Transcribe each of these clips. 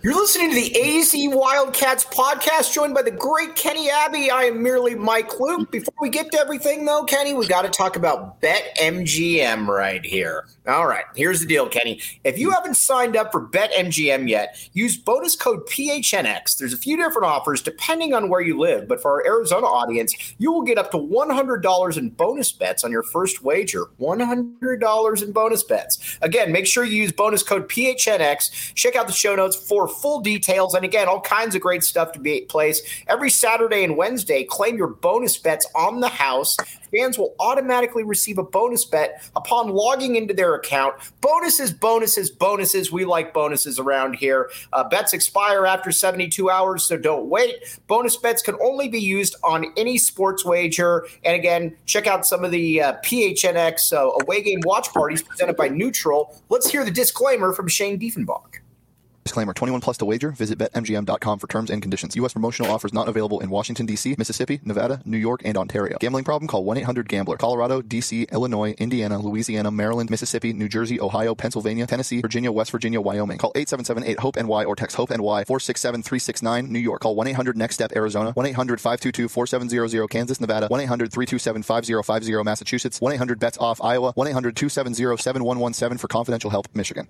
You're listening to the AZ Wildcats podcast, joined by the great Kenny Abbey. I am merely Mike Luke. Before we get to everything, though, Kenny, we got to talk about BetMGM right here. All right, here's the deal, Kenny. If you haven't signed up for BetMGM yet, use bonus code PHNX. There's a few different offers depending on where you live, but for our Arizona audience, you will get up to $100 in bonus bets on your first wager. $100 in bonus bets. Again, make sure you use bonus code PHNX. Check out the show notes for full details. And again, all kinds of great stuff to be at place. Every Saturday and Wednesday, claim your bonus bets on the house. Fans will automatically receive a bonus bet upon logging into their account. Bonuses, bonuses, bonuses. We like bonuses around here. Bets expire after 72 hours, so don't wait. Bonus bets can only be used on any sports wager. And again, check out some of the PHNX away game watch parties presented by Neutral. Let's hear the disclaimer from Shane Diefenbach. Disclaimer, 21 plus to wager. Visit BetMGM.com for terms and conditions. U.S. promotional offers not available in Washington, D.C., Mississippi, Nevada, New York, and Ontario. Gambling problem? Call 1-800-GAMBLER. Colorado, D.C., Illinois, Indiana, Louisiana, Maryland, Mississippi, New Jersey, Ohio, Pennsylvania, Tennessee, Virginia, West Virginia, Wyoming. Call 877-8-HOPE-NY or text HOPE-NY 467-369. New York. Call 1-800-NEXT-STEP, Arizona. 1-800-522-4700, Kansas, Nevada. 1-800-327-5050, Massachusetts. 1-800-BETS-OFF, Iowa. 1-800-270-7117 for confidential help, Michigan.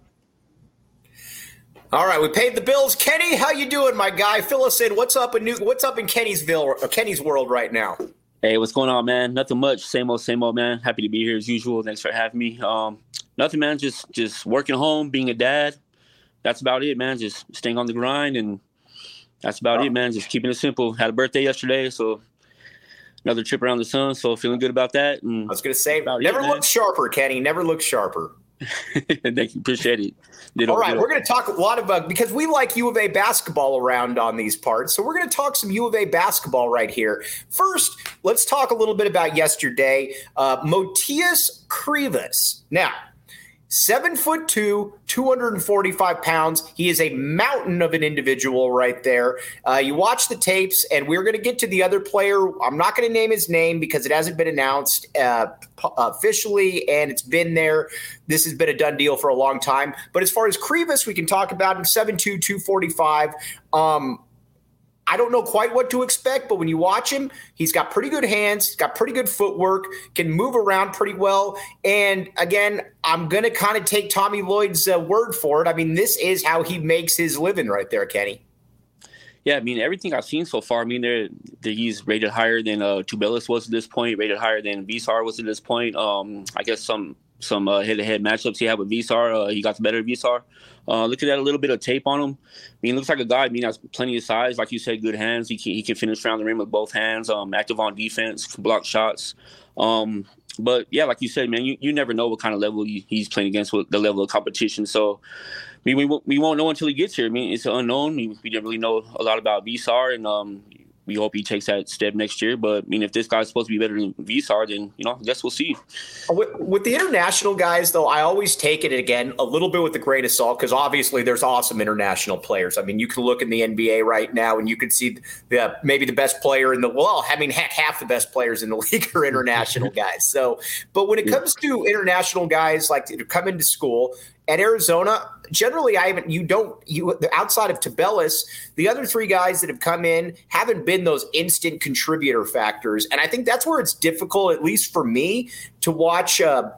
All right, we paid the bills. Kenny, how you doing, my guy? Fill us in. What's up in Kenny's world right now? Hey, what's going on, man? Nothing much. Same old, man. Happy to be here as usual. Thanks for having me. Nothing, man. Just working home, being a dad. That's about it, man. Just staying on the grind, and that's about it, man. Just keeping it simple. Had a birthday yesterday, so another trip around the sun. So feeling good about that. And I was going to say, never looked sharper, Kenny. Never looked sharper. Thank you. Appreciate it. All right, we're going to talk a lot about, because we like U of A basketball around on these parts, so we're going to talk some U of A basketball right here. First, let's talk a little bit about yesterday. Motiejus Krivas. Now, 7'2", 245 pounds. He is a mountain of an individual right there. You watch the tapes, and we're going to get to the other player. I'm not going to name his name because it hasn't been announced officially, and it's been there. This has been a done deal for a long time. But as far as Krivas, we can talk about him, 7'2", 245. I don't know quite what to expect, but when you watch him, he's got pretty good hands, he's got pretty good footwork, can move around pretty well. And again, I'm going to kind of take Tommy Lloyd's word for it. I mean, this is how he makes his living right there, Kenny. Yeah, I mean, everything I've seen so far, I mean, he's rated higher than Tubelis was at this point, rated higher than Visar was at this point. I guess some head-to-head matchups he had with Visar, he got the better of Visar. Look at that, a little bit of tape on him. I mean, he looks like a guy, has plenty of size. Like you said, good hands. He can finish around the rim with both hands, active on defense, block shots. But, yeah, like you said, man, you never know what kind of level he's playing against, with the level of competition. So, I mean, we won't know until he gets here. I mean, it's an unknown. We didn't really know a lot about Visar, and we hope he takes that step next year. But, I mean, if this guy's supposed to be better than Visar, then, I guess we'll see. With the international guys, though, I always take it, again, a little bit with a grain of salt, because obviously there's awesome international players. I mean, you can look in the NBA right now, and you can see maybe the best player half the best players in the league are international guys. So, but when it comes to international guys like to come into school at Arizona, generally, outside of Tubelis, the other three guys that have come in haven't been those instant contributor factors. And I think that's where it's difficult, at least for me, to watch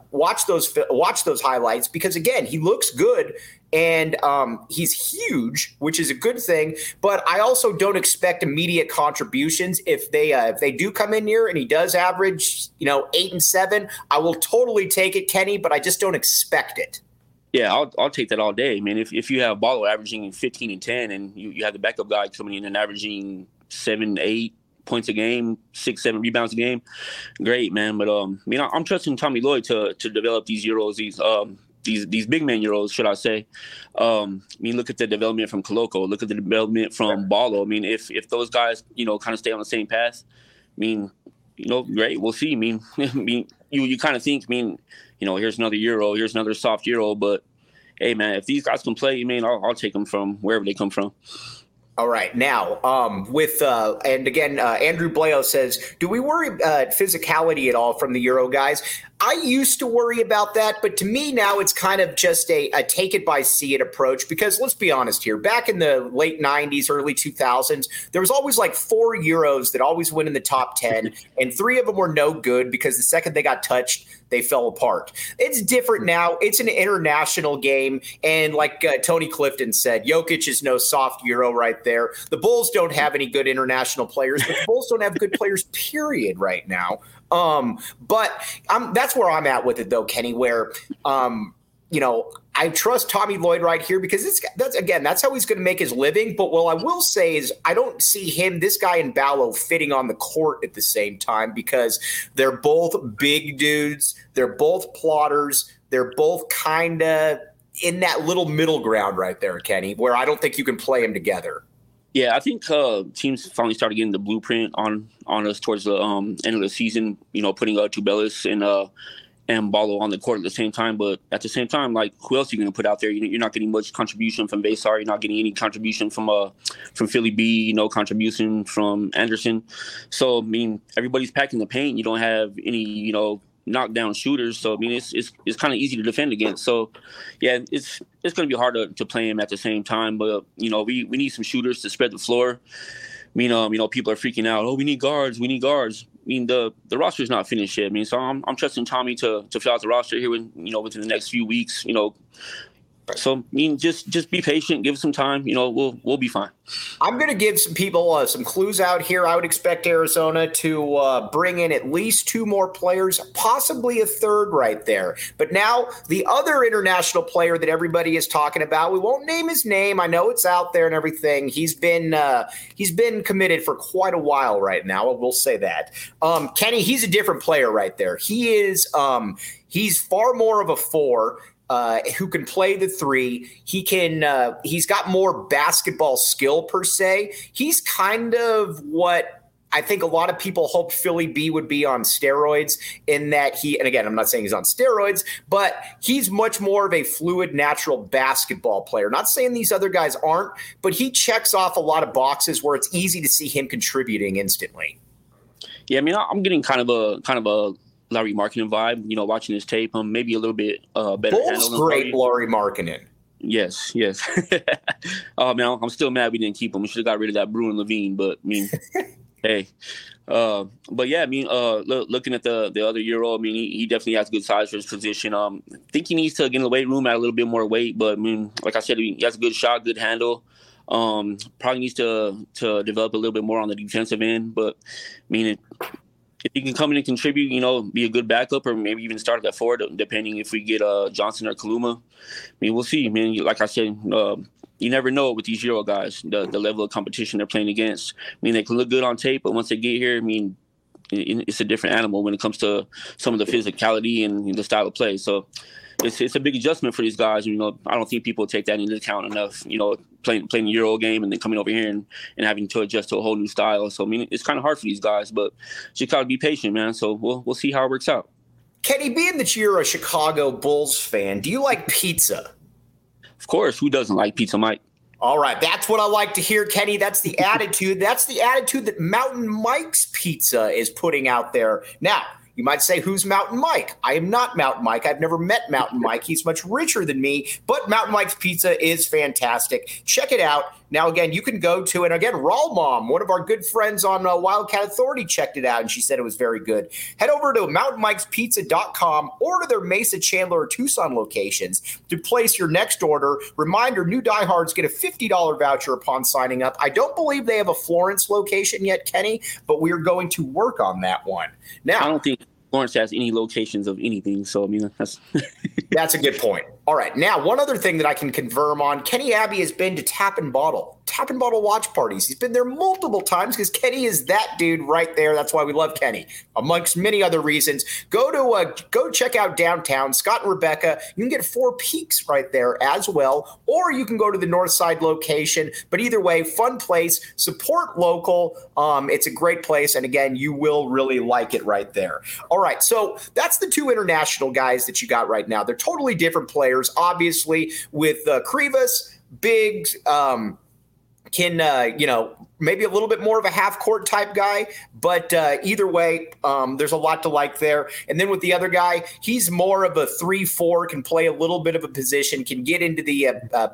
those highlights, because again, he looks good and he's huge, which is a good thing. But I also don't expect immediate contributions. If they do come in here and he does average, 8 and 7, I will totally take it, Kenny, but I just don't expect it. Yeah, I'll take that all day. I mean, if you have Ballo averaging 15 and 10 and you have the backup guy coming in and averaging 7, 8 points a game, 6, 7 rebounds a game, great, man. But I'm trusting Tommy Lloyd to develop these Euros, these big man Euros, should I say. Look at the development from Koloko, look at the development from Ballo. I mean, if those guys, kind of stay on the same path, great, we'll see. You kind of think, here's another Euro, here's another soft Euro, but hey, man, if these guys can play, I'll take them from wherever they come from. All right. Now, and again, Andrew Blayo says, do we worry physicality at all from the Euro guys? I used to worry about that, but to me now it's kind of just a take it by see it approach, because let's be honest here. Back in the late 90s, early 2000s, there was always like 4 Euros that always went in the top 10, and 3 of them were no good because the second they got touched, they fell apart. It's different now. It's an international game, and like Tony Clifton said, Jokic is no soft Euro right there. The Bulls don't have any good international players, but the Bulls don't have good players, period, right now. But that's where I'm at with it, though, Kenny, where, I trust Tommy Lloyd right here because that's how he's going to make his living. But what I will say is I don't see this guy and Ballo fitting on the court at the same time because they're both big dudes. They're both plotters. They're both kind of in that little middle ground right there, Kenny, where I don't think you can play them together. Yeah, I think teams finally started getting the blueprint on us towards the end of the season, putting Tubelis and Ballo on the court at the same time. But at the same time, like, who else are you going to put out there? You're not getting much contribution from Besar. You're not getting any contribution from Philly B, no contribution from Anderson. So, I mean, everybody's packing the paint. You don't have any, knockdown shooters. So, I mean, it's kind of easy to defend against. So, yeah, it's going to be hard to play him at the same time. But, we need some shooters to spread the floor. I mean, people are freaking out. Oh, we need guards. We need guards. I mean, the roster is not finished yet. I mean, so I'm trusting Tommy to fill out the roster here within the next few weeks. So, I mean, just be patient, give it some time. We'll be fine. I'm going to give some people some clues out here. I would expect Arizona to bring in at least 2 more players, possibly a third right there. But now the other international player that everybody is talking about, we won't name his name. I know it's out there and everything. He's been committed for quite a while right now. We'll say that. Kenny, he's a different player right there. He is he's far more of a 4. Who can play the 3. He's got more basketball skill per se. He's kind of what I think a lot of people hoped Philly B would be on steroids in that and again, I'm not saying he's on steroids, but he's much more of a fluid, natural basketball player. Not saying these other guys aren't, but he checks off a lot of boxes where it's easy to see him contributing instantly. Yeah, I mean, I'm getting kind of a Lauri Markkanen vibe, watching his tape. Maybe a little bit better. Bulls great Lauri Markkanen. Yes. Oh man, I'm still mad we didn't keep him. We should have got rid of that Bruin Levine. But I mean, hey. But yeah, I mean, looking at the other Euro, I mean, he definitely has good size for his position. I think he needs to get in the weight room, add a little bit more weight. But I mean, like I said, he has a good shot, good handle. Probably needs to develop a little bit more on the defensive end. But I mean, if he can come in and contribute, be a good backup or maybe even start at that forward, depending if we get Johnson or Kaluma. I mean, we'll see. I mean, like I said, you never know with these Euro guys, the level of competition they're playing against. I mean, they can look good on tape, but once they get here, I mean, it's a different animal when it comes to some of the physicality and the style of play. So it's a big adjustment for these guys. I don't think people take that into account enough, playing the Euro game and then coming over here and having to adjust to a whole new style. So, I mean, it's kind of hard for these guys, but just got to be patient, man. So we'll see how it works out. Kenny, being that you're a Chicago Bulls fan, do you like pizza? Of course. Who doesn't like pizza, Mike? All right. That's what I like to hear, Kenny. That's the attitude. That's the attitude that Mountain Mike's Pizza is putting out there. Now, you might say, who's Mountain Mike? I am not Mountain Mike. I've never met Mountain Mike. He's much richer than me, but Mountain Mike's Pizza is fantastic. Check it out. Now, again, you can go to, and again, Raw Mom, one of our good friends on Wildcat Authority, checked it out, and she said it was very good. Head over to mountainmikespizza.com or to their Mesa, Chandler, or Tucson locations to place your next order. Reminder, new diehards get a $50 voucher upon signing up. I don't believe they have a Florence location yet, Kenny, but we're going to work on that one. Now, I don't think Florence has any locations of anything, so I mean, that's that's a good point. All right, now one other thing that I can confirm on, Kenny Abbey has been to Tap and Bottle watch parties. He's been there multiple times because Kenny is that dude right there. That's why we love Kenny, amongst many other reasons. Go check out downtown, Scott and Rebecca. You can get Four Peaks right there as well, or you can go to the North Side location. But either way, fun place, support local. It's a great place, and again, you will really like it right there. All right, so that's the 2 international guys that you got right now. They're totally different players, obviously, with Krivas, Biggs, can, maybe a little bit more of a half-court type guy. But either way, there's a lot to like there. And then with the other guy, he's more of a 3-4, can play a little bit of a position, can get into the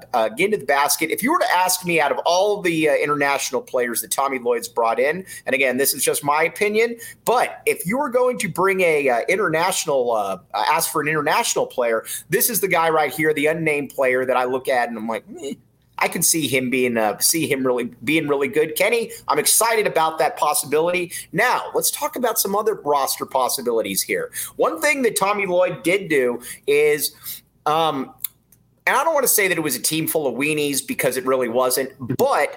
basket. If you were to ask me, out of all the international players that Tommy Lloyd's brought in, and again, this is just my opinion, but if you were going to bring ask for an international player, this is the guy right here, the unnamed player that I look at and I'm like, I can see him being really good. Kenny, I'm excited about that possibility. Now, let's talk about some other roster possibilities here. One thing that Tommy Lloyd did do is, and I don't want to say that it was a team full of weenies because it really wasn't, but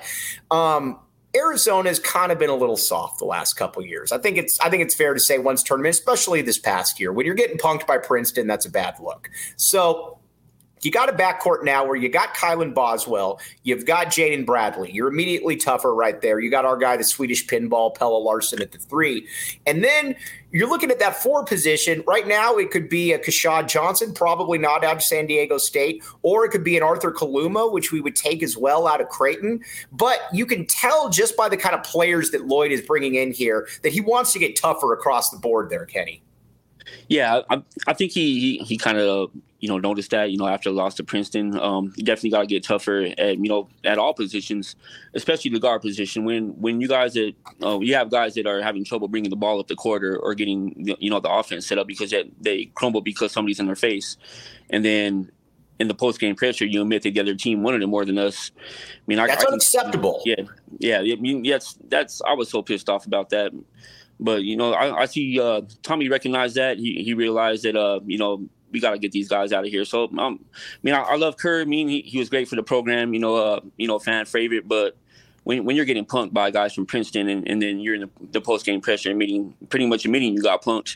Arizona's kind of been a little soft the last couple of years. I think it's fair to say once tournament, especially this past year, when you're getting punked by Princeton, that's a bad look. So you got a backcourt now where you got Kylan Boswell, you've got Jaden Bradley. You're immediately tougher right there. You got our guy, the Swedish pinball, Pelle Larsson at the 3. And then you're looking at that 4 position. Right now it could be a Keshad Johnson, probably not out of San Diego State, or it could be an Arthur Kaluma, which we would take as well out of Creighton. But you can tell just by the kind of players that Lloyd is bringing in here that he wants to get tougher across the board there, Kenny. Yeah, I think he kind of noticed that after the loss to Princeton. You definitely got to get tougher at all positions, especially the guard position. When you guys you have guys that are having trouble bringing the ball up the court or getting the offense set up because they crumble because somebody's in their face, and then in the post game pressure you admit that the other team wanted it more than us. I mean, that's unacceptable. Yeah. I mean, that's I was so pissed off about that. But, I see Tommy recognized that. He realized that, we got to get these guys out of here. So, I love Kerr. He was great for the program, fan favorite. But when you're getting punked by guys from Princeton and then you're in the post-game pressure and pretty much admitting you got punked,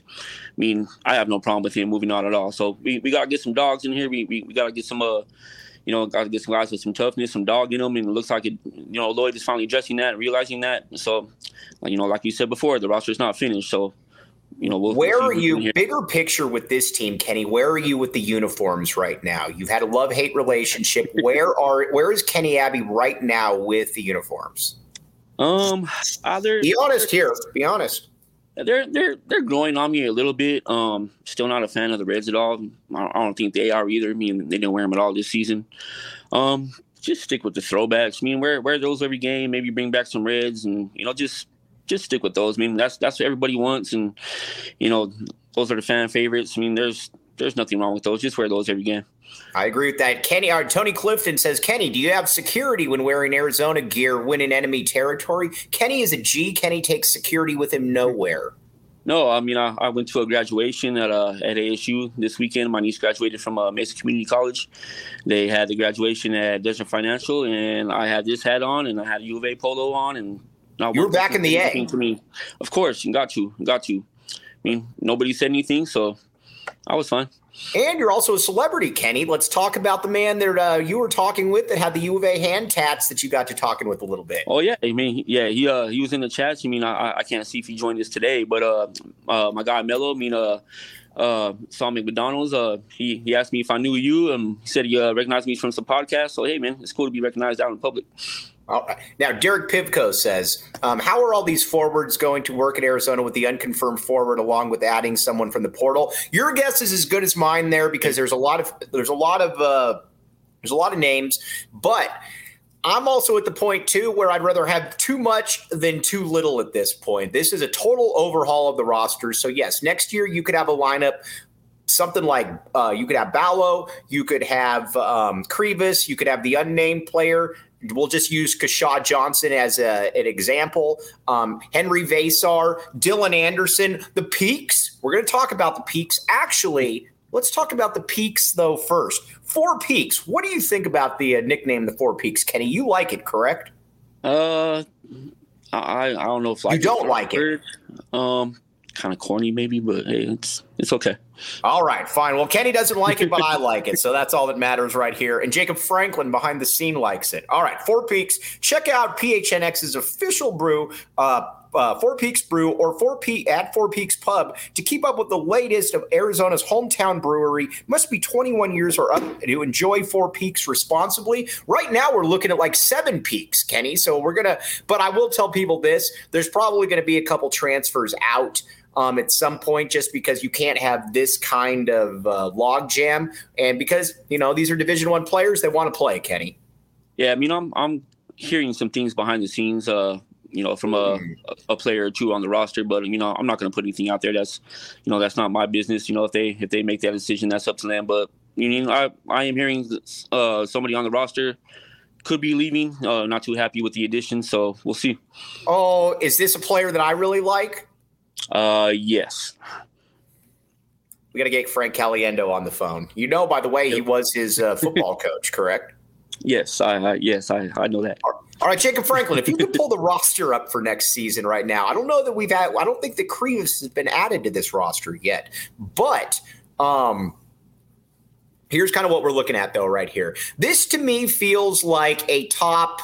I have no problem with him moving on at all. So we got to get some dogs in here. We got to get some got to get some guys with some toughness, some dog in them, and it looks like Lloyd is finally addressing that and realizing that. So, like you said before, the roster's not finished. So, where are you, bigger picture with this team, Kenny? Where are you with the uniforms right now? You've had a love-hate relationship. Where is Kenny Abbey right now with the uniforms? Be honest here. Be honest. They're growing on me a little bit. Still not a fan of the Reds at all. I don't think they are either. They didn't wear them at all this season. Just stick with the throwbacks. Wear those every game. Maybe bring back some Reds, and just stick with those. That's what everybody wants, and those are the fan favorites. There's nothing wrong with those. Just wear those every game. I agree with that. Kenny, Tony Clifton says, Kenny, do you have security when wearing Arizona gear when in enemy territory? Kenny is a G. Kenny takes security with him nowhere. No, I went to a graduation at ASU this weekend. My niece graduated from Mesa Community College. They had the graduation at Desert Financial, and I had this hat on, and I had a U of A polo on, and you were back in the A. To me. Of course, you got to. Nobody said anything, so I was fine. And you're also a celebrity, Kenny. Let's talk about the man that you were talking with that had the U of A hand tats that you got to talking with a little bit. Oh, yeah. He was in the chats. I can't see if he joined us today, but my guy Mello, saw me at McDonald's. He asked me if I knew you. He said he recognized me from some podcasts. So, hey, man, it's cool to be recognized out in public. Now, Derek Pivko says, how are all these forwards going to work at Arizona with the unconfirmed forward along with adding someone from the portal? Your guess is as good as mine there because there's a lot of names, but I'm also at the point too where I'd rather have too much than too little at this point. This is a total overhaul of the roster. So yes, next year you could have a lineup something like you could have Ballo, you could have Krivas, you could have the unnamed player. We'll just use Keshad Johnson as an example. Henry Vasar, Dylan Anderson, the Peaks. We're going to talk about the Peaks. Actually, let's talk about the Peaks, though, first. Four Peaks. What do you think about the nickname, the Four Peaks? Kenny, you like it, correct? I don't know if you don't like it. Kind of corny, maybe, but hey, it's okay. All right, fine. Well, Kenny doesn't like it, but I like it, so that's all that matters right here. And Jacob Franklin behind the scene likes it. All right, Four Peaks. Check out PHNX's official brew Four Peaks Brew or at Four Peaks Pub to keep up with the latest of Arizona's hometown brewery. Must be 21 years or up to enjoy Four Peaks responsibly. Right now, we're looking at like 7 peaks, Kenny. So but I will tell people this: there's probably going to be a couple transfers out at some point, just because you can't have this kind of log jam, and because these are Division I players that want to play, Kenny. Yeah, I mean, I'm hearing some things behind the scenes, from a player or two on the roster, but I'm not going to put anything out there. That's not my business. If they make that decision, that's up to them. But I am hearing somebody on the roster could be leaving. Not too happy with the addition, so we'll see. Oh, is this a player that I really like? Yes. We got to get Frank Caliendo on the phone. By the way, he was his football coach, correct? Yes, I know that. All right, Jacob Franklin, if you could pull the roster up for next season right now, I don't know that I don't think that Krivas has been added to this roster yet, but here's kind of what we're looking at though right here. This to me feels like a top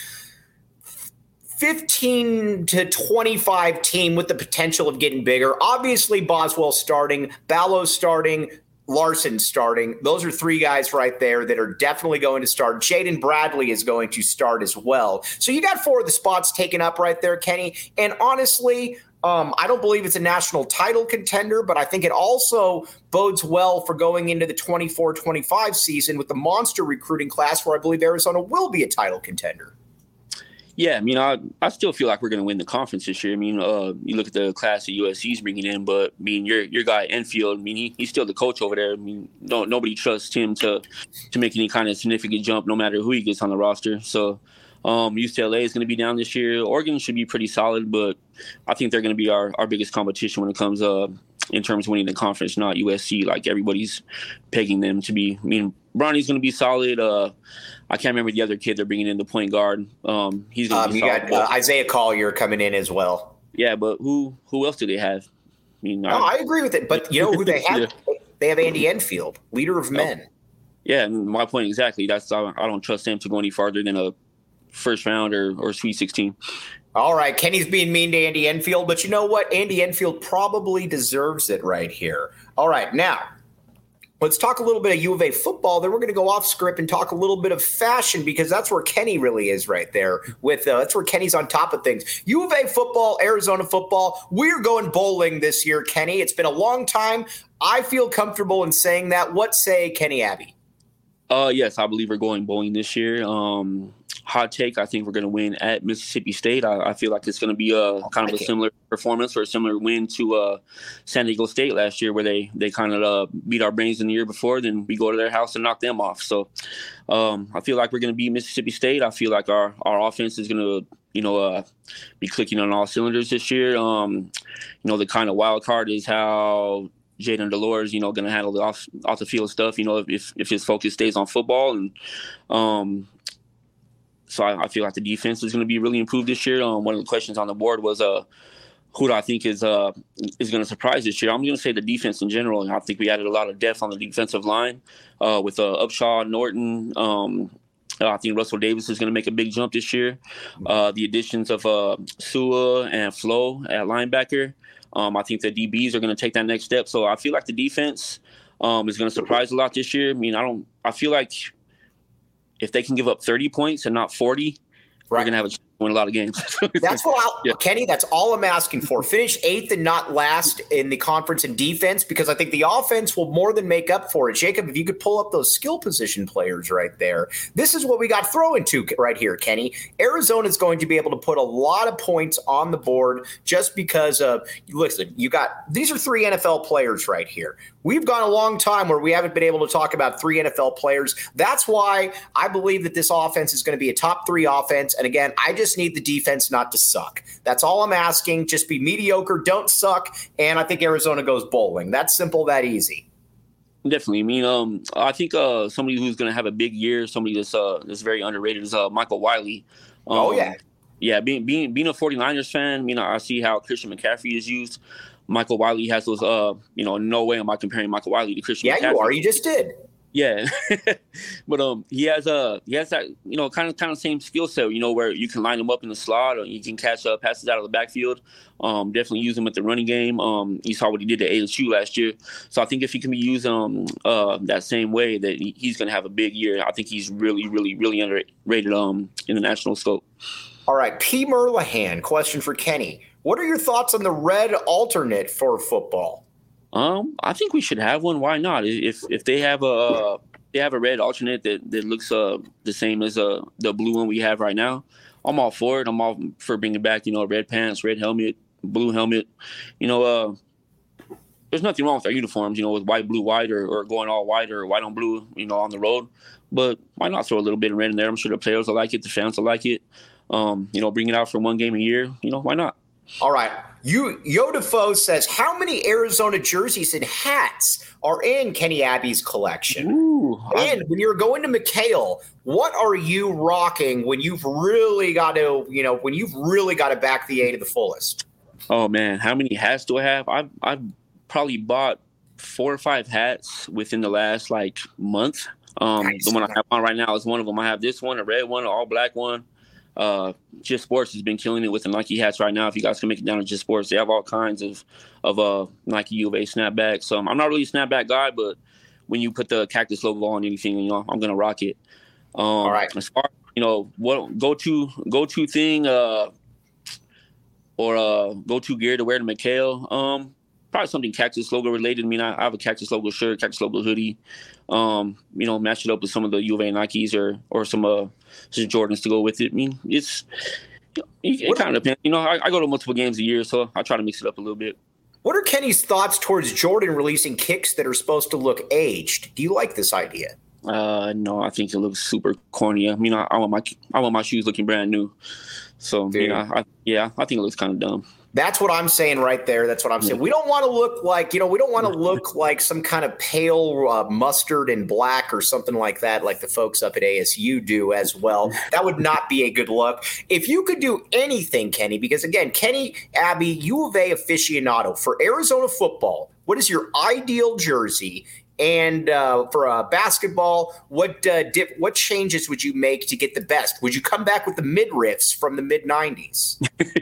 15 to 25 team with the potential of getting bigger. Obviously, Boswell starting, Ballo starting, Larson starting. Those are 3 guys right there that are definitely going to start. Jaden Bradley is going to start as well. So you got 4 of the spots taken up right there, Kenny. And honestly, I don't believe it's a national title contender, but I think it also bodes well for going into the 24-25 season with the monster recruiting class where I believe Arizona will be a title contender. Yeah, I mean, I still feel like we're going to win the conference this year. I mean, you look at the class that USC's bringing in, but I mean, your guy Enfield, I mean, he's still the coach over there. I mean, nobody trusts him to make any kind of significant jump, no matter who he gets on the roster. So UCLA is going to be down this year. Oregon should be pretty solid, but I think they're going to be our biggest competition when it comes in terms of winning the conference, not USC. Like everybody's pegging them to be. I mean, Bronny's going to be solid. I can't remember the other kid they're bringing in, the point guard. He's going to be solid. You got Isaiah Collier coming in as well. Yeah, but who else do they have? I mean, I agree with it. But you know who they have? Yeah. They have Andy Enfield, leader of men. Yeah, my point exactly. I don't trust him to go any farther than a first round or Sweet 16. All right, Kenny's being mean to Andy Enfield, but you know what? Andy Enfield probably deserves it right here. All right, now let's talk a little bit of U of A football. Then we're going to go off script and talk a little bit of fashion because that's where Kenny really is right there. That's where Kenny's on top of things. U of A football, Arizona football. We're going bowling this year, Kenny. It's been a long time. I feel comfortable in saying that. What say Kenny Abbey? Yes, I believe we're going bowling this year. Hot take, I think we're going to win at Mississippi State. I feel like it's going to be kind of a similar performance or a similar win to San Diego State last year where they kind of beat our brains in the year before. Then we go to their house and knock them off. So I feel like we're going to beat Mississippi State. I feel like our offense is going to, be clicking on all cylinders this year. The kind of wild card is how Jaden Delores, going to handle the off the field stuff, if his focus stays on football. And so I feel like the defense is going to be really improved this year. One of the questions on the board was who do I think is going to surprise this year? I'm going to say the defense in general. And I think we added a lot of depth on the defensive line with Upshaw, Norton. I think Russell Davis is going to make a big jump this year. The additions of Sua and Flo at linebacker. I think the DBs are going to take that next step. So I feel like the defense is going to surprise a lot this year. I mean, I feel like if they can give up 30 points and not 40, we're going to have a win a lot of games. That's Kenny, that's all I'm asking for. Finish 8th and not last in the conference in defense, because I think the offense will more than make up for it. Jacob, if you could pull up those skill position players right there. This is what we got thrown to right here, Kenny. Arizona is going to be able to put a lot of points on the board just because of, listen, these are 3 NFL players right here. We've gone a long time where we haven't been able to talk about 3 NFL players. That's why I believe that this offense is going to be a top 3 offense. And again, I just need the defense not to suck. That's all I'm asking. Just be mediocre, don't suck, and I think Arizona goes bowling. That's simple, that easy. Definitely. I mean, I think somebody who's going to have a big year, somebody that's very underrated is Michael Wiley. Yeah, being a 49ers fan, I mean, I see how Christian McCaffrey is used. Michael Wiley has those, no way am I comparing Michael Wiley to Christian McCaffrey. Yeah, you are. You just did. Yeah, but he has that kind of same skill set, where you can line him up in the slot, or you can catch passes out of the backfield. Definitely use him at the running game. You saw what he did at ASU last year, so I think if he can be used that same way, that he's going to have a big year. I think he's really, really, really underrated in the national scope. All right, P. Merlihan, question for Kenny: what are your thoughts on the red alternate for football? I think we should have one. Why not? If they have a red alternate that looks the same as the blue one we have right now, I'm all for it. I'm all for bringing back red pants, red helmet, blue helmet. There's nothing wrong with our uniforms, with white, blue, white, or going all white or white on blue, on the road. But why not throw a little bit of red in there? I'm sure the players will like it, the fans will like it. Bring it out for one game a year. Why not? All right. Yodefoe says, how many Arizona jerseys and hats are in Kenny Abbey's collection? Ooh, and when you're going to McHale, what are you rocking when you've really got to, back the A to the fullest? Oh man, how many hats do I have? I've probably bought 4 or 5 hats within the last month. Nice. The one I have on right now is one of them. I have this one, a red one, an all black one. Just Sports has been killing it with the Nike hats right now. If you guys can make it down to Just Sports, they have all kinds of Nike U of A snapbacks. I'm not really a snapback guy, but when you put the cactus logo on anything, I'm gonna rock it. All right. As far what go to thing or go to gear to wear to McHale, probably something cactus logo related. I mean, I have a cactus logo shirt, cactus logo hoodie. Match it up with some of the U of A Nikes or some Jordans to go with it. I mean, it kind of depends. I go to multiple games a year, so I try to mix it up a little bit. What are Kenny's thoughts towards Jordan releasing kicks that are supposed to look aged? Do you like this idea? No, I think it looks super corny. I mean, I want my shoes looking brand new. So, I think it looks kind of dumb. That's what I'm saying right there. That's what I'm saying. We don't want to look like, we don't want to look like some kind of pale mustard and black or something like that, like the folks up at ASU do as well. That would not be a good look. If you could do anything, Kenny, because again, Kenny Abbey, U of A aficionado for Arizona football, what is your ideal jersey? And for basketball, what changes would you make to get the best? Would you come back with the midriffs from the mid-'90s?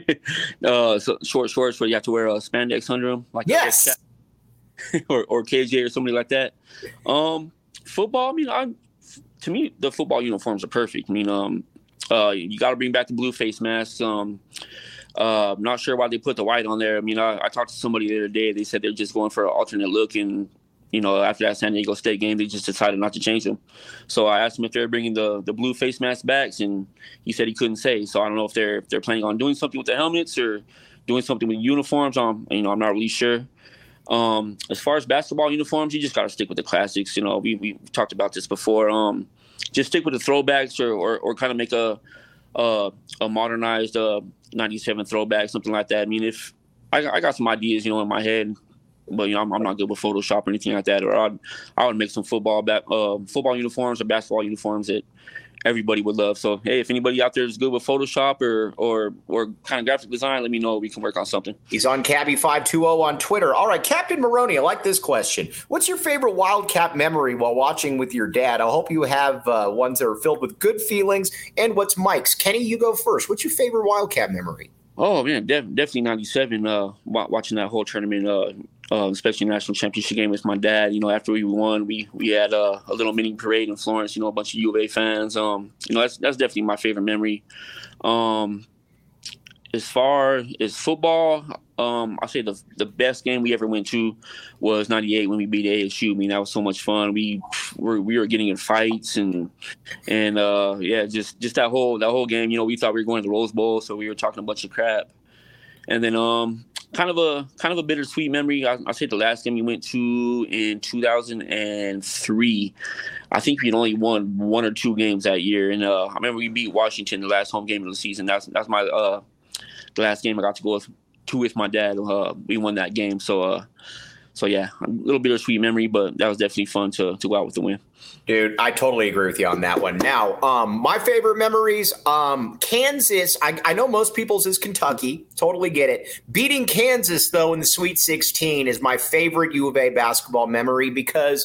So short shorts where you have to wear a spandex under them, like yes, or KJ or somebody like that. Football, I mean, to me the football uniforms are perfect. I mean, you got to bring back the blue face masks. Not sure why they put the white on there. I mean, I talked to somebody the other day. They said they're just going for an alternate look and. After that San Diego State game, they just decided not to change them. So I asked him if they're bringing the blue face mask back, and he said he couldn't say. So I don't know if they're planning on doing something with the helmets or doing something with uniforms. I'm not really sure. As far as basketball uniforms, you just got to stick with the classics. We talked about this before. Just stick with the throwbacks or kind of make a modernized 97 throwback, something like that. I mean, if I got some ideas, in my head. But I'm not good with Photoshop or anything like that. Or I would make some football uniforms or basketball uniforms that everybody would love. So hey, if anybody out there is good with Photoshop or kind of graphic design, let me know. We can work on something. He's on Cabby520 on Twitter. All right, Captain Maroney, I like this question. What's your favorite Wildcat memory while watching with your dad? I hope you have ones that are filled with good feelings. And what's Mike's? Kenny, you go first. What's your favorite Wildcat memory? Oh man, definitely 97. Watching that whole tournament. Especially national championship game with my dad. After we won, we had a little mini parade in Florence. A bunch of U of A fans. That's definitely my favorite memory. As far as football, I say the best game we ever went to was '98 when we beat ASU. I mean, that was so much fun. We were getting in fights and just that whole game. We thought we were going to the Rose Bowl, so we were talking a bunch of crap. And then kind of a bittersweet memory. I say the last game we went to in 2003. I think we'd only won 1 or 2 games that year, and I remember we beat Washington the last home game of the season. That's my the last game I got to go to with my dad. We won that game, so yeah, a little bittersweet memory, but that was definitely fun to go out with the win. Dude, I totally agree with you on that one. Now, my favorite memories, Kansas, I know most people's is Kentucky. Totally get it. Beating Kansas, though, in the Sweet 16 is my favorite U of A basketball memory because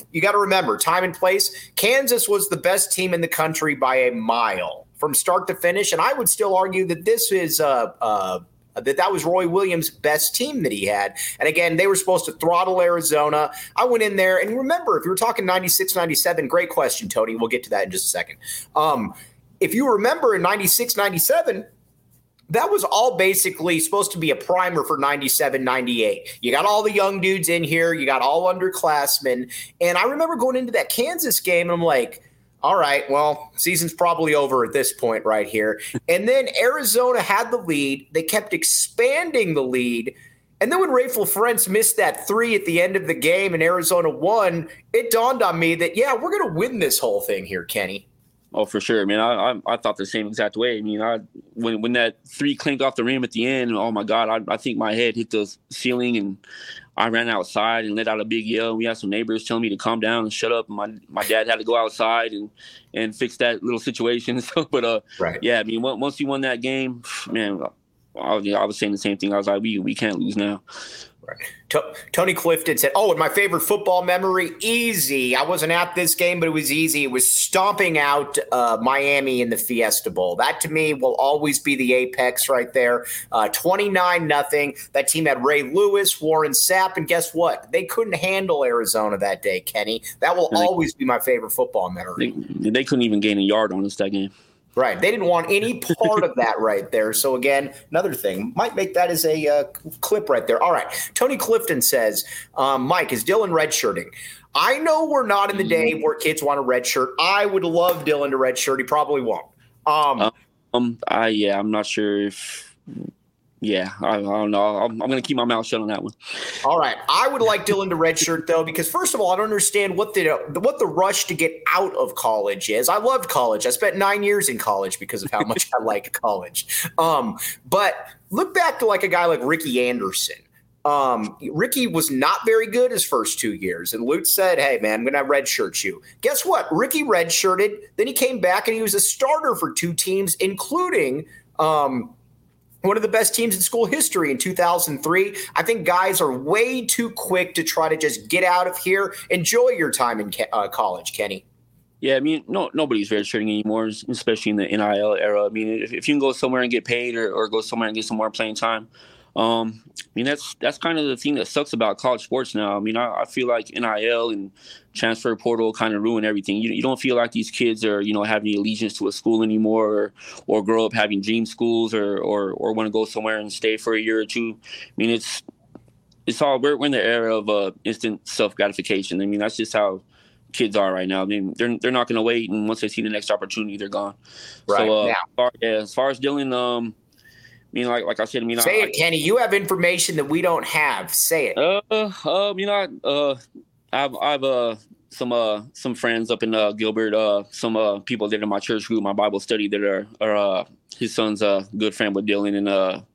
you got to remember, time and place, Kansas was the best team in the country by a mile from start to finish. And I would still argue that this is that was Roy Williams' best team that he had. And again, they were supposed to throttle Arizona. I went in there, and remember, if you were talking 96, 97, great question, Tony. We'll get to that in just a second. If you remember in 96, 97, that was all basically supposed to be a primer for 97, 98. You got all the young dudes in here. You got all underclassmen. And I remember going into that Kansas game, and I'm like, all right, well, season's probably over at this point right here. And then Arizona had the lead. They kept expanding the lead. And then when Rafael Ferentz missed that 3 at the end of the game and Arizona won, it dawned on me that, yeah, we're going to win this whole thing here, Kenny. Oh, for sure. I mean, I thought the same exact way. I mean, when that 3 clinked off the rim at the end, oh, my God, I think my head hit the ceiling, and I ran outside and let out a big yell. We had some neighbors telling me to calm down and shut up. And my dad had to go outside and fix that little situation. So, but, right. Yeah, I mean, once we won that game, man, I was saying the same thing. I was like, we can't lose now. Right. Tony Clifton said, and my favorite football memory, easy. I wasn't at this game, but it was easy. It was stomping out Miami in the Fiesta Bowl. That, to me, will always be the apex right there. 29-0. That team had Ray Lewis, Warren Sapp, and guess what? They couldn't handle Arizona that day, Kenny. That will always be my favorite football memory. They couldn't even gain a yard on us that game. Right. They didn't want any part of that right there. So, again, another thing. Might make that as a clip right there. All right. Tony Clifton says, Mike, is Dylan redshirting? I know we're not in the day where kids want a redshirt. I would love Dylan to redshirt. He probably won't. I'm not sure if – yeah, I don't know. I'm going to keep my mouth shut on that one. All right. I would like Dylan to redshirt, though, because, first of all, I don't understand what the rush to get out of college is. I loved college. I spent 9 years in college because of how much I like college. But look back to like a guy like Ricky Anderson. Ricky was not very good his first 2 years, and Lute said, hey, man, I'm going to redshirt you. Guess what? Ricky redshirted. Then he came back, and he was a starter for 2 teams, including one of the best teams in school history in 2003. I think guys are way too quick to try to just get out of here. Enjoy your time in college, Kenny. Yeah, I mean, nobody's redshirting anymore, especially in the NIL era. I mean, if you can go somewhere and get paid or go somewhere and get some more playing time, I mean, that's kind of the thing that sucks about college sports now. I mean, I feel like NIL and transfer portal kind of ruin everything. You don't feel like these kids are, having allegiance to a school anymore or grow up having dream schools or want to go somewhere and stay for a year or two. I mean, it's all, we're in the era of instant self-gratification. I mean, that's just how kids are right now. I mean, they're not going to wait, and once they see the next opportunity, they're gone. Right. So, as far as Dylan, I mean, like I said, say it, Kenny. You have information that we don't have. Say it. I've some friends up in Gilbert, some people that are in my church group, my Bible study, that are his son's a good friend with Dylan, and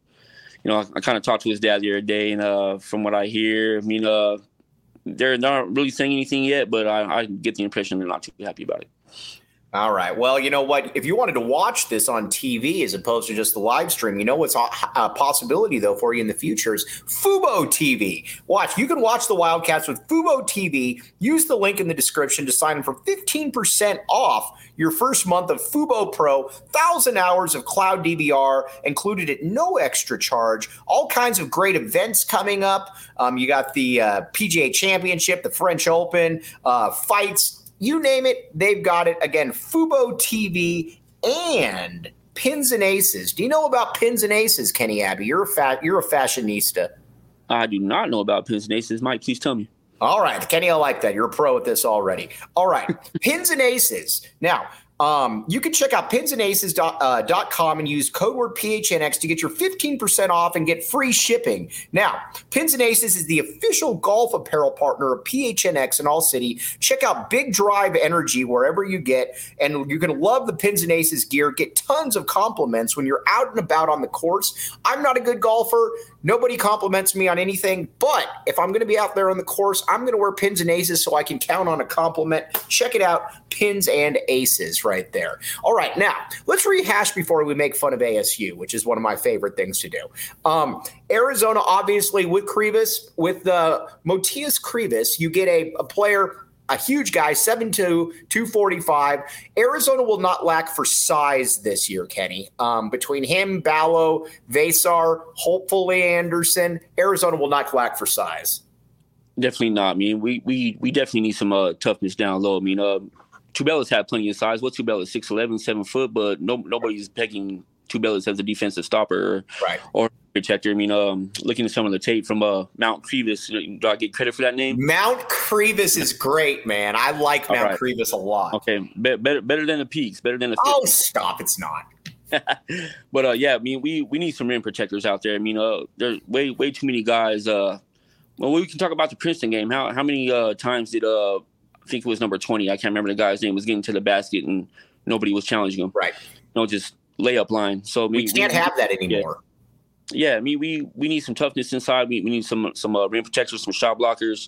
I kind of talked to his dad the other day, and from what I hear, I mean, they're not really saying anything yet, but I get the impression they're not too happy about it. All right. Well, you know what? If you wanted to watch this on TV as opposed to just the live stream, you know what's a possibility, though, for you in the future is Fubo TV. You can watch the Wildcats with Fubo TV. Use the link in the description to sign up for 15% off your first month of Fubo Pro. 1,000 hours of cloud DVR included at no extra charge. All kinds of great events coming up. You got the PGA Championship, the French Open, fights. You name it, they've got it. Again, Fubo TV and Pins and Aces. Do you know about Pins and Aces, Kenny Abbey? You're a fashionista. I do not know about Pins and Aces. Mike, please tell me. All right, Kenny, I like that. You're a pro at this already. All right, Pins and Aces. Now, you can check out pinsandaces.com and use code word PHNX to get your 15% off and get free shipping. Now, Pins and Aces is the official golf apparel partner of PHNX in All City. Check out Big Drive Energy wherever you get, and you're going to love the Pins and Aces gear. Get tons of compliments when you're out and about on the course. I'm not a good golfer. Nobody compliments me on anything, but if I'm going to be out there on the course, I'm going to wear Pins and Aces so I can count on a compliment. Check it out, Pins and Aces right there. All right, now let's rehash before we make fun of ASU, which is one of my favorite things to do. Arizona, obviously, with Krivas, with Motias Krivas, you get a player a huge guy, 7'2", 245. Arizona will not lack for size this year, Kenny. Between him, Ballo, Vesar, hopefully Anderson, Arizona will not lack for size. Definitely not. I mean, we definitely need some toughness down low. I mean, Tubelis had plenty of size. What's Tubelis? 6'11", 7 foot, but nobody's pegging Tubelis as a defensive stopper or protector. I mean, looking at some of the tape from Mount Crevis, do I get credit for that name? Mount Crevis is great, man. I like Mount Crevis a lot. Okay, better than the Peaks, better than the. Oh, stop! It's not. But I mean, we need some rim protectors out there. I mean, there's way too many guys. Well, we can talk about the Princeton game. How many times did I think it was number 20? I can't remember the guy's name. Was getting to the basket and nobody was challenging him. Right. Just layup line. So we can't have that anymore. Yeah, I mean, we need some toughness inside. We need some rim protectors, some shot blockers.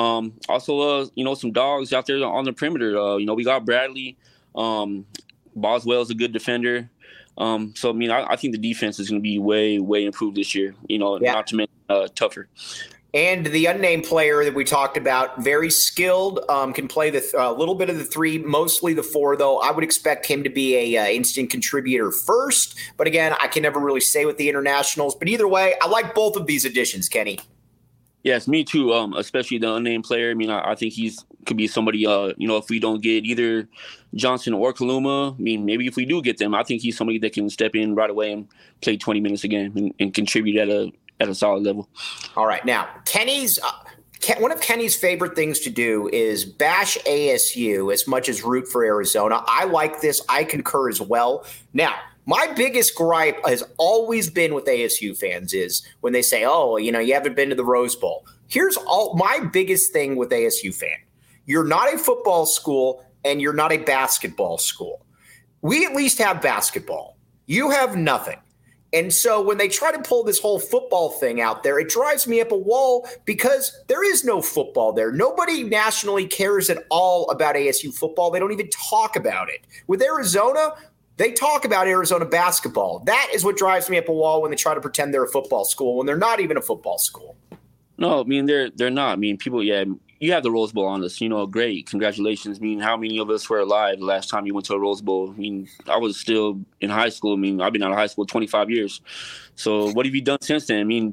Also, some dogs out there on the perimeter. We got Bradley. Boswell's a good defender. So I mean, I think the defense is going to be way improved this year. Not to mention tougher. And the unnamed player that we talked about, very skilled, can play a little bit of the three, mostly the four, though. I would expect him to be a instant contributor first. But again, I can never really say with the internationals. But either way, I like both of these additions, Kenny. Yes, me too, especially the unnamed player. I mean, I think could be somebody, if we don't get either Johnson or Kaluma, I mean, maybe if we do get them, I think he's somebody that can step in right away and play 20 minutes a game and contribute at a solid level. All right. Now, Kenny's one of Kenny's favorite things to do is bash ASU as much as root for Arizona. I like this. I concur as well. Now, my biggest gripe has always been with ASU fans is when they say, oh, you haven't been to the Rose Bowl. Here's my biggest thing with ASU fan. You're not a football school and you're not a basketball school. We at least have basketball. You have nothing. And so when they try to pull this whole football thing out there, it drives me up a wall because there is no football there. Nobody nationally cares at all about ASU football. They don't even talk about it. With Arizona, they talk about Arizona basketball. That is what drives me up a wall when they try to pretend they're a football school when they're not even a football school. No, I mean, they're not. I mean, people, you have the Rose Bowl on us. Great. Congratulations. I mean, how many of us were alive the last time you went to a Rose Bowl? I mean, I was still in high school. I mean, I've been out of high school 25 years. So what have you done since then? I mean,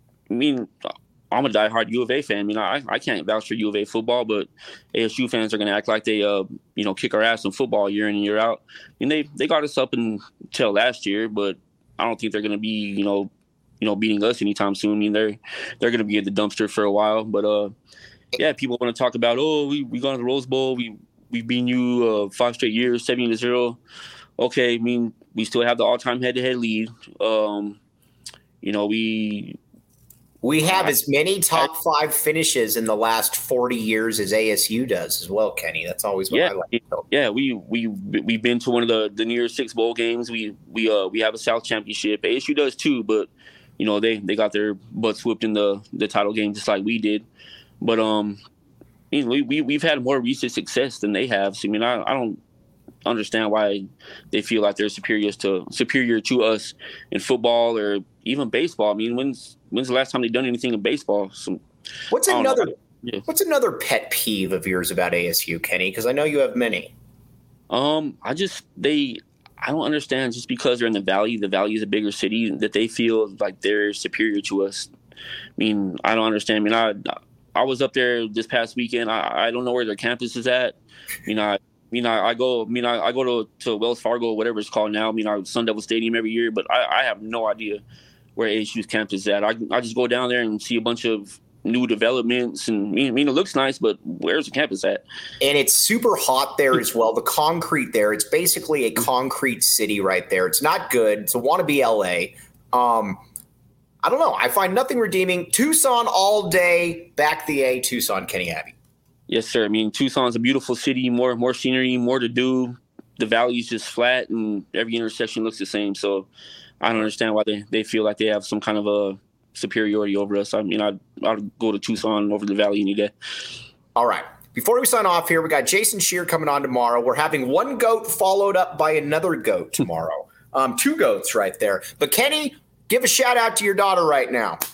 I'm a diehard U of A fan. I mean, I can't vouch for U of A football, but ASU fans are going to act like they, kick our ass in football year in and year out. I mean, they got us up until last year, but I don't think they're going to be, beating us anytime soon. I mean, they're going to be at the dumpster for a while, but people want to talk about, we got to the Rose Bowl. We've beaten you 5 straight years, 70-0. Okay, I mean, we still have the all-time head-to-head lead. We have as many top 5 finishes in the last 40 years as ASU does as well, Kenny. That's always what I like. Yeah, we've been to one of the near 6 bowl games. We have a South championship. ASU does too, but they got their butts whooped in the title game just like we did. But we've had more recent success than they have. So I mean, I don't understand why they feel like they're superior to us in football or even baseball. I mean, when's the last time they've done anything in baseball? What's another pet peeve of yours about ASU, Kenny? Because I know you have many. I don't understand just because they're in the Valley is a bigger city, that they feel like they're superior to us. I mean, I don't understand. I mean, I was up there this past weekend. I don't know where their campus is at. I go to Wells Fargo, whatever it's called now. I mean, Sun Devil Stadium every year, but I have no idea where ASU's campus is at. I just go down there and see a bunch of new developments, and I mean, it looks nice, but where's the campus at? And it's super hot there as well. The concrete there, it's basically a concrete city right there. It's not good. It's a wannabe LA. I don't know. I find nothing redeeming. Tucson all day. Back the A, Tucson, Kenny Abbey. Yes, sir. I mean, Tucson's a beautiful city, more scenery, more to do. The valley's just flat, and every intersection looks the same. So I don't understand why they feel like they have some kind of a superiority over us. I mean, I'd go to Tucson over the valley any day. All right. Before we sign off here, we got Jason Scheer coming on tomorrow. We're having one goat followed up by another goat tomorrow. 2 goats right there. But Kenny, give a shout out to your daughter right now.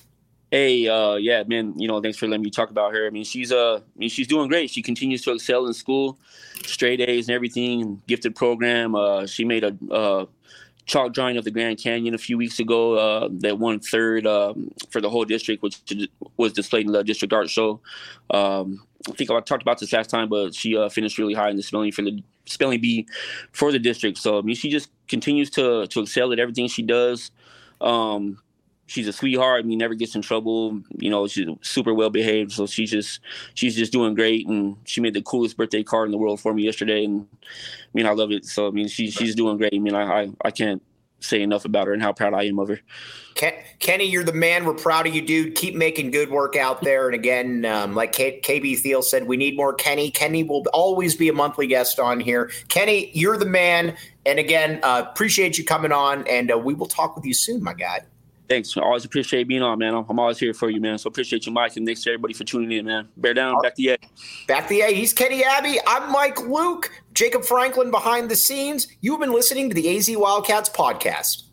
Hey, yeah, man, thanks for letting me talk about her. I mean, she's doing great. She continues to excel in school, straight A's and everything, gifted program. She made a chalk drawing of the Grand Canyon a few weeks ago that won third for the whole district, which was displayed in the district art show. I think I talked about this last time, but she finished really high in the spelling bee for the district. So I mean, she just continues to excel at everything she does. She's a sweetheart. I mean, never gets in trouble. She's super well behaved. So she's just doing great. And she made the coolest birthday card in the world for me yesterday. And I mean, I love it. So I mean, she's doing great. I mean, I can't say enough about her and how proud I am of her. Kenny, you're the man. We're proud of you, dude. Keep making good work out there. And again, like KB Thiel said, we need more Kenny. Kenny will always be a monthly guest on here. Kenny, you're the man. And again, appreciate you coming on. And we will talk with you soon, my guy. Thanks. I always appreciate being on, man. I'm always here for you, man. So appreciate you, Mike, and thanks to everybody for tuning in, man. Bear down. Back to the A. Back to the A. He's Kenny Abbey. I'm Mike Luke. Jacob Franklin behind the scenes. You've been listening to the AZ Wildcats podcast.